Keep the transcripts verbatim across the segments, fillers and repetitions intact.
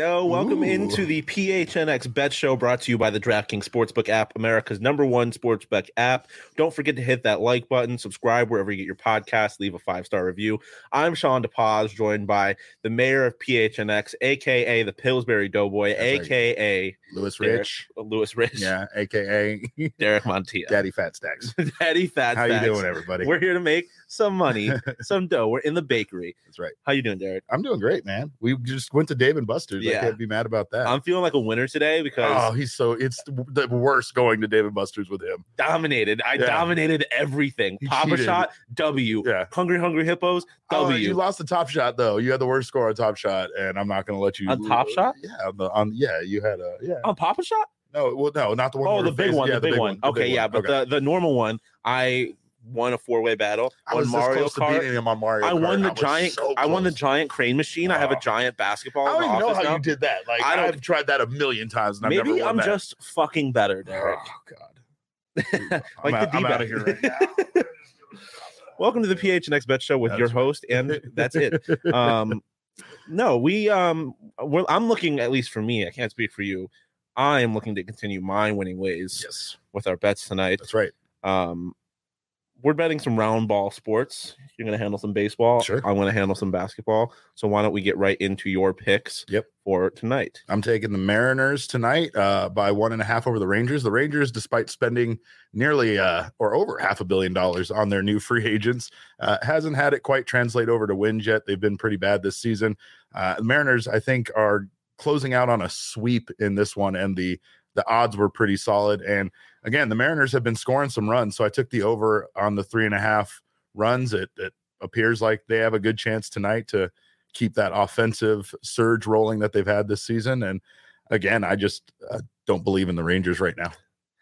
yo. Welcome Ooh. into the P H N X Bet Show, brought to you by the DraftKings Sportsbook app, America's number one sportsbook app. Don't forget to hit that like button, subscribe wherever you get your podcast, leave a five-star review. I'm Sean DePaz, joined by the mayor of P H N X, a k a the Pillsbury Doughboy, That's a right. k a. Lewis Derek, Rich. Lewis Rich. Yeah, a k a. Derek Montilla. Daddy Fat Stacks. Daddy Fat How Stacks. you doing, everybody? We're here to make some money, some dough. We're in the bakery. That's right. How you doing, Derek? I'm doing great, man. We just went to Dave and Buster's. Yeah. I can't be mad about that. I'm feeling like a winner today because oh, he's so it's the worst going to Dave and Buster's with him. dominated. I Yeah. dominated everything. He Papa cheated. Shot, W. Yeah. Hungry Hungry Hippos, Oh, W. you lost the Top Shot though. You had the worst score on Top Shot, and I'm not going to let you On Top Shot? Yeah, on the, on yeah, you had a yeah. On Papa Shot? No, well, no, not the one. Oh, we the were big facing. one. Yeah, the big, one. the Okay, big yeah, one. but Okay. the, the normal one, I won a four-way battle I was on this Mario close to Kart. beating him on Mario I Kart. won the was giant. so I won the close. giant crane machine. I have a Oh. giant basketball. I in don't the even know office how now. you did that. Like I don't- I've tried that a million times, and I've Maybe never won I'm that. just fucking better, Derek. Oh God. like I'm, out, the I'm D-bag. out of here right now. Welcome to the P H N X Bet Show with That's your right. host, and that's it. Um, no, we um, we're, I'm looking, at least for me, I can't speak for you. I am looking to continue my winning ways Yes, with our bets tonight. that's right. Um, we're betting some round ball sports. You're going to handle some baseball. Sure. I'm going to handle some basketball. So why don't we get right into your picks Yep. for tonight? I'm taking the Mariners tonight uh, by one and a half over the Rangers. The Rangers, despite spending nearly uh, or over half a billion dollars on their new free agents, uh, hasn't had it quite translate over to wins yet. They've been pretty bad this season. Uh, the Mariners, I think, are closing out on a sweep in this one, and the the odds were pretty solid. And again, the Mariners have been scoring some runs, so I took the over on the three and a half runs. It, it appears like they have a good chance tonight to keep that offensive surge rolling that they've had this season. And again, I just uh, don't believe in the Rangers right now.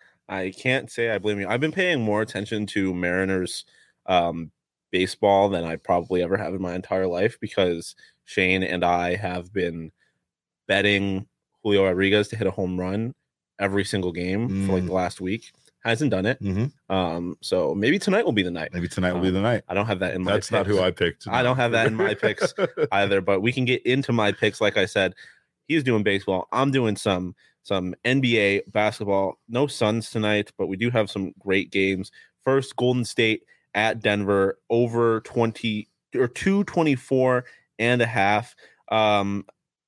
I can't say I blame you. I've been paying more attention to Mariners um, baseball than I probably ever have in my entire life because Shane and I have been betting Julio Rodriguez to hit a home run every single game Mm. for like the last week. Hasn't done it. Mm-hmm. Um, so maybe tonight will be the night. Maybe tonight will be Um, the night. I don't have that in my That's not picks who I picked. I don't have that in my picks either, but we can get into my picks. Like I said, he's doing baseball. I'm doing some some N B A basketball. No Suns tonight, but we do have some great games. First, Golden State at Denver, over twenty or two twenty-four and a half. Um,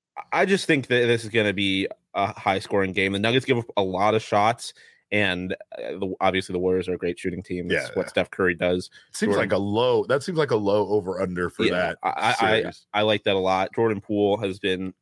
I just think that this is going to be a high scoring game. The Nuggets give up a lot of shots, and uh, the, obviously the Warriors are a great shooting team. That's Yeah. what Steph Curry does. Seems Jordan- like a low. That seems like a low over under for Yeah, that. I, I, series. I like that a lot. Jordan Poole has been,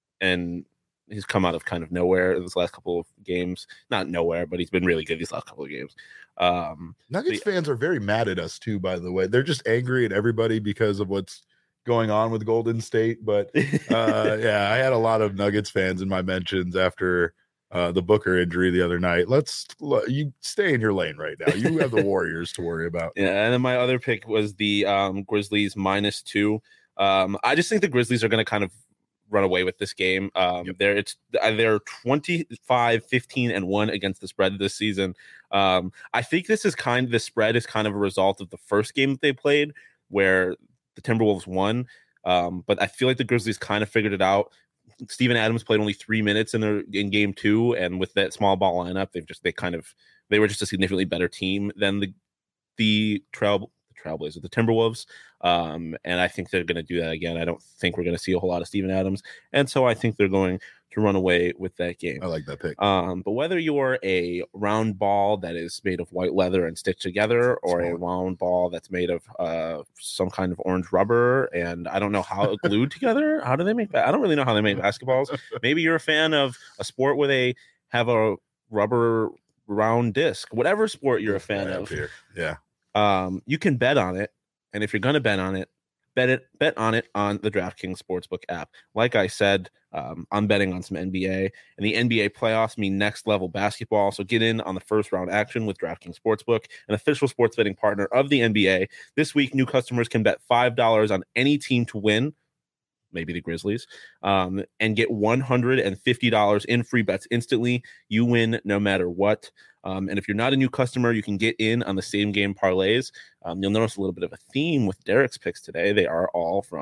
and he's come out of kind of nowhere in this last couple of games. Not nowhere, but he's been really good these last couple of games. Um, Nuggets the- fans are very mad at us too, by the way. They're just angry at everybody because of what's going on with Golden State. But uh, yeah, I had a lot of Nuggets fans in my mentions after uh, the Booker injury the other night. Let's you stay in your lane right now. You have the Warriors to worry about. yeah, and then my other pick was the um, Grizzlies minus two. Um, I just think the Grizzlies are going to kind of run away with this game. Um, Yep. They're it's they're twenty-five, fifteen, and one against the spread this season. Um, I think this is kind the spread is kind of a result of the first game that they played where the Timberwolves won. Um, but I feel like the Grizzlies kind of figured it out. Steven Adams played only three minutes in their in game two, and with that small ball lineup, they've just they kind of they were just a significantly better team than the the Trail Trailblazers, the Timberwolves. Um, and I think they're going to do that again. I don't think we're going to see a whole lot of Steven Adams, and so I think they're going to run away with that game. I like that pick. Um, but whether you're a round ball that is made of white leather and stitched together, or a round ball that's made of uh, some kind of orange rubber, and I don't know how glued together. How do they make that? I don't really know how they make basketballs. Maybe you're a fan of a sport where they have a rubber round disc. Whatever sport you're a fan Right of, up here. Yeah. um, you can bet on it. And if you're going to bet on it, bet it bet on it on the DraftKings Sportsbook app. Like I said, um, I'm betting on some N B A, and the N B A playoffs mean next level basketball. So get in on the first round action with DraftKings Sportsbook, an official sports betting partner of the N B A. This week, new customers can bet five dollars on any team to win, maybe the Grizzlies, um, and get one hundred fifty dollars in free bets instantly. You win no matter what. Um, and if you're not a new customer, you can get in on the same game parlays. Um, you'll notice a little bit of a theme with Derek's picks today. They are all from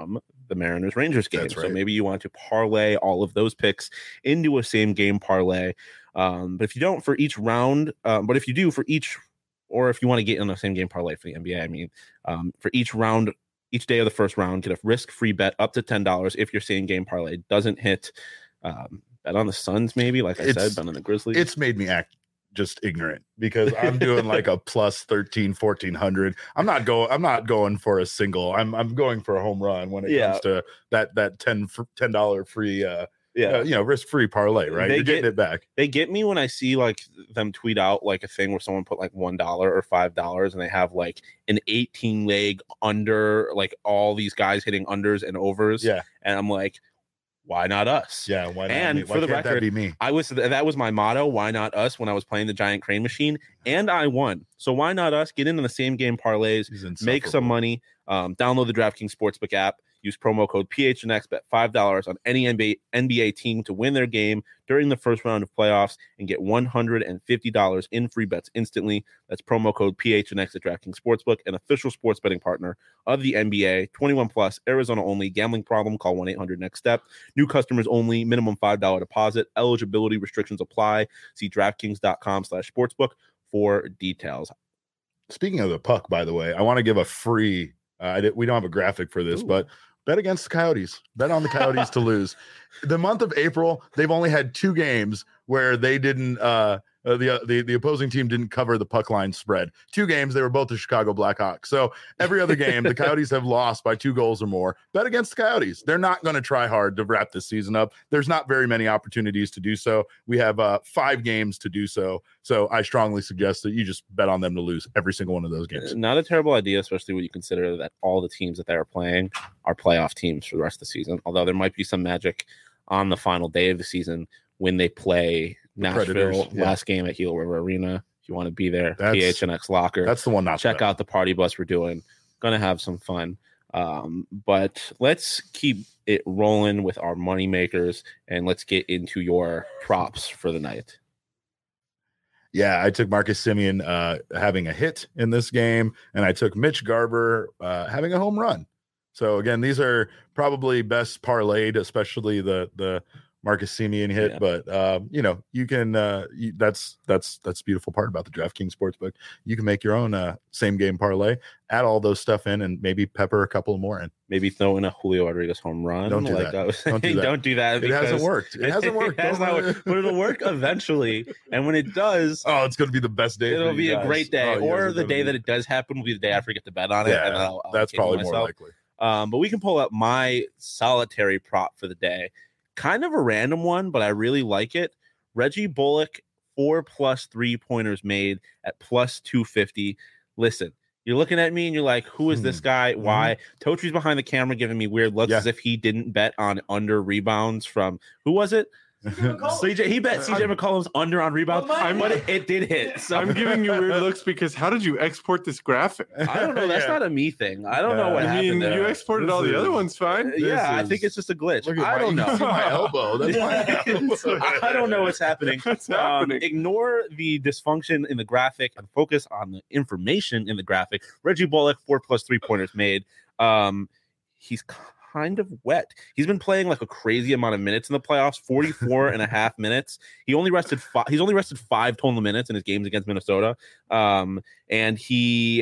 the Mariners Rangers game. That's right. So maybe you want to parlay all of those picks into a same game parlay. Um, but if you don't for each round, um, but if you do for each, or if you want to get in the same game parlay for the N B A, I mean, um, for each round, each day of the first round, get a risk-free bet up to ten dollars if your same game parlay doesn't hit. Um, bet on the Suns, maybe, like I It's- said, bet on the Grizzlies. It's made me act just ignorant because I'm doing like a plus thirteen, fourteen hundred. I'm not going, I'm not going for a single. I'm, I'm going for a home run when it Yeah. comes to that, that ten, ten dollars free, uh, yeah. uh, you know, risk-free parlay, right? They You're getting get- it back. They get me when I see like them tweet out like a thing where someone put like one dollar or five dollars and they have like an eighteen leg under, like all these guys hitting unders and overs. Yeah. And I'm like, why not us? Yeah. Why not? And me? Why for the can't that record, be me. I was that was my motto. Why not us? When I was playing the giant crane machine, and I won. So why not us? Get into the same game parlays, He's make some insufferable. money. Um, download the DraftKings Sportsbook app. Use promo code P H N X. Bet five dollars on any N B A, N B A team to win their game during the first round of playoffs and get one hundred fifty dollars in free bets instantly. That's promo code P H N X at DraftKings Sportsbook, an official sports betting partner of the N B A. twenty-one plus, Arizona only. Gambling problem? Call one eight hundred next step. New customers only. Minimum five dollars deposit. Eligibility restrictions apply. See DraftKings.com slash sportsbook for details. Speaking of the puck, by the way, I want to give a free. Uh, I did, we don't have a graphic for this, Ooh. but bet against the Coyotes. Bet on the Coyotes to lose. The month of April, they've only had two games where they didn't. Uh, uh, the, uh, the the opposing team didn't cover the puck line spread. Two games, they were both the Chicago Blackhawks. So every other game, the Coyotes have lost by two goals or more. Bet against the Coyotes. They're not going to try hard to wrap this season up. There's not very many opportunities to do so. We have uh, five games to do so. So I strongly suggest that you just bet on them to lose every single one of those games. Not a terrible idea, especially when you consider that all the teams that they are playing are playoff teams for the rest of the season. Although there might be some magic on the final day of the season when they play Nashville, Predators, yeah. last game at Gila River Arena. If you want to be there, That's- P H N X Locker. That's the one not to Check bet. out the party bus we're doing. Gonna have some fun. Um, but let's keep it rolling with our money makers and let's get into your props for the night. Yeah, I took Marcus Simeon uh, having a hit in this game, and I took Mitch Garber uh, having a home run. So again, these are probably best parlayed, especially the the Marcus Simeon hit. Yeah. But um, you know, you can. Uh, you, that's that's that's the beautiful part about the DraftKings Sportsbook. You can make your own uh, same game parlay, add all those stuff in, and maybe pepper a couple more in. Maybe throw in a Julio Rodriguez home run. Don't do like that. I was Don't do saying, that. don't do that. It hasn't because- worked. It hasn't worked. It has Don't not worry. worked, but it'll work eventually. And when it does, Oh, it's going to be the best day. for it'll you be a guys. great day. Oh, you guys or are the gonna day be- that it does happen will be the day I forget to bet on it. Yeah, and I'll, I'll that's kid probably more myself. likely. Um, but we can pull up my solitary prop for the day. Kind of a random one, but I really like it. Reggie Bullock, four plus three pointers made at plus two fifty. Listen, you're looking at me and you're like, who is this Hmm. guy? Why? Totри's behind the camera giving me weird looks Yeah. as if he didn't bet on under rebounds from who was it? C J. He bet C J McCollum's under on rebounds, Well, mine- but it, it did hit. So I'm giving you weird looks because how did you export this graphic? I don't know. That's Yeah. not a me thing. I don't know Yeah. what I happened mean, there. you exported This all the is- other ones fine. This yeah, I is- think it's just a glitch. Look at I my, don't you can see know. my elbow. That's my elbow. I don't know what's happening. What's Um, happening? ignore the dysfunction in the graphic and focus on the information in the graphic. Reggie Bullock, four plus three pointers made. Um, he's kind of wet. He's been playing like a crazy amount of minutes in the playoffs, forty-four and a half minutes. He only rested five. He's only rested five total minutes in his games against Minnesota. Um, and he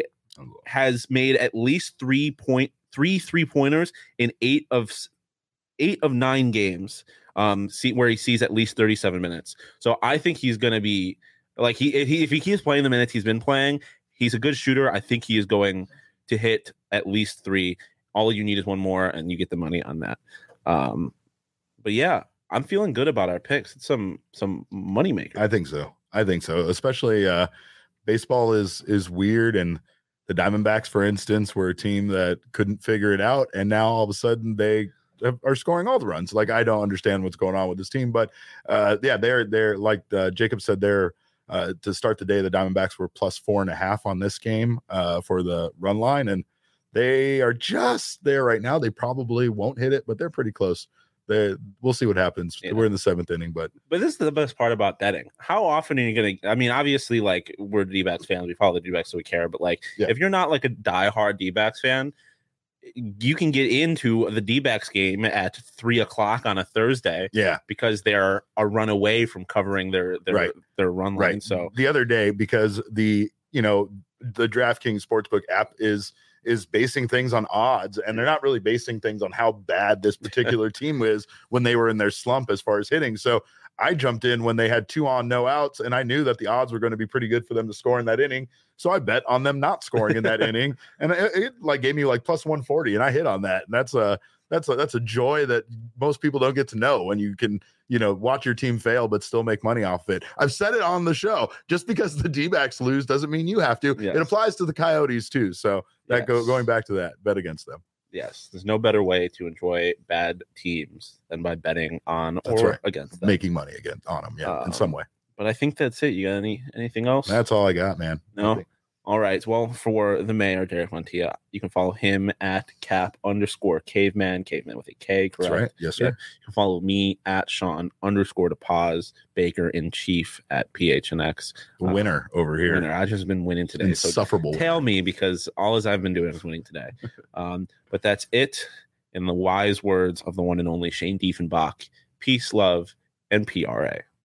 has made at least three point three three pointers in eight of s- eight of nine games. Um, see where he sees at least thirty-seven minutes. So I think he's going to be like he if, he if he keeps playing the minutes he's been playing, he's a good shooter. I think he is going to hit at least three. All you need is one more, and you get the money on that. Um, but yeah, I'm feeling good about our picks. It's some some money maker. I think so. I think so. Especially uh, baseball is is weird, and the Diamondbacks, for instance, were a team that couldn't figure it out, and now all of a sudden they have, are scoring all the runs. Like I don't understand what's going on with this team, but uh, yeah, they're they're like uh, Jacob said, they're uh, to start the day. The Diamondbacks were plus four and a half on this game uh, for the run line, and they are just there right now. They probably won't hit it, but they're pretty close. They, we'll see what happens. Yeah. We're in the seventh inning, but But this is the best part about betting. How often are you going to? I mean, obviously, like we're D-backs fans, we follow the D-backs, so we care. But like, Yeah. if you're not like a diehard D-backs fan, you can get into the D-backs game at three o'clock on a Thursday. Yeah. Because they're a run away from covering their their Right. their run line. Right. So the other day, because the you know the DraftKings Sportsbook app is is basing things on odds, and they're not really basing things on how bad this particular team is when they were in their slump as far as hitting. So I jumped in when they had two on, no outs, and I knew that the odds were going to be pretty good for them to score in that inning. So I bet on them not scoring in that inning, and it, it like gave me like plus one forty, and I hit on that. And that's a that's a that's a joy that most people don't get to know when you can, you know, watch your team fail but still make money off of it. I've said it on the show. Just because the D-backs lose doesn't mean you have to. Yes. It applies to the Coyotes too. So that Yes. go going back to that, bet against them. yes, there's no better way to enjoy bad teams than by betting on That's or right. against them. Making money again on them, yeah, Um, in some way. But I think that's it. You got any anything else? That's all I got, man. No. All right. Well, for the mayor, Derek Montilla, you can follow him at cap underscore caveman, caveman with a K, correct? That's right. Yes, sir. Yeah. You can follow me at Sean underscore to pause Baker in chief at P H N X. The winner over here. Winner. I've just been winning today. So Insufferable. tell me, because all as I've been doing is winning today. Um, but that's it. In the wise words of the one and only Shane Diefenbach, peace, love, and P R A.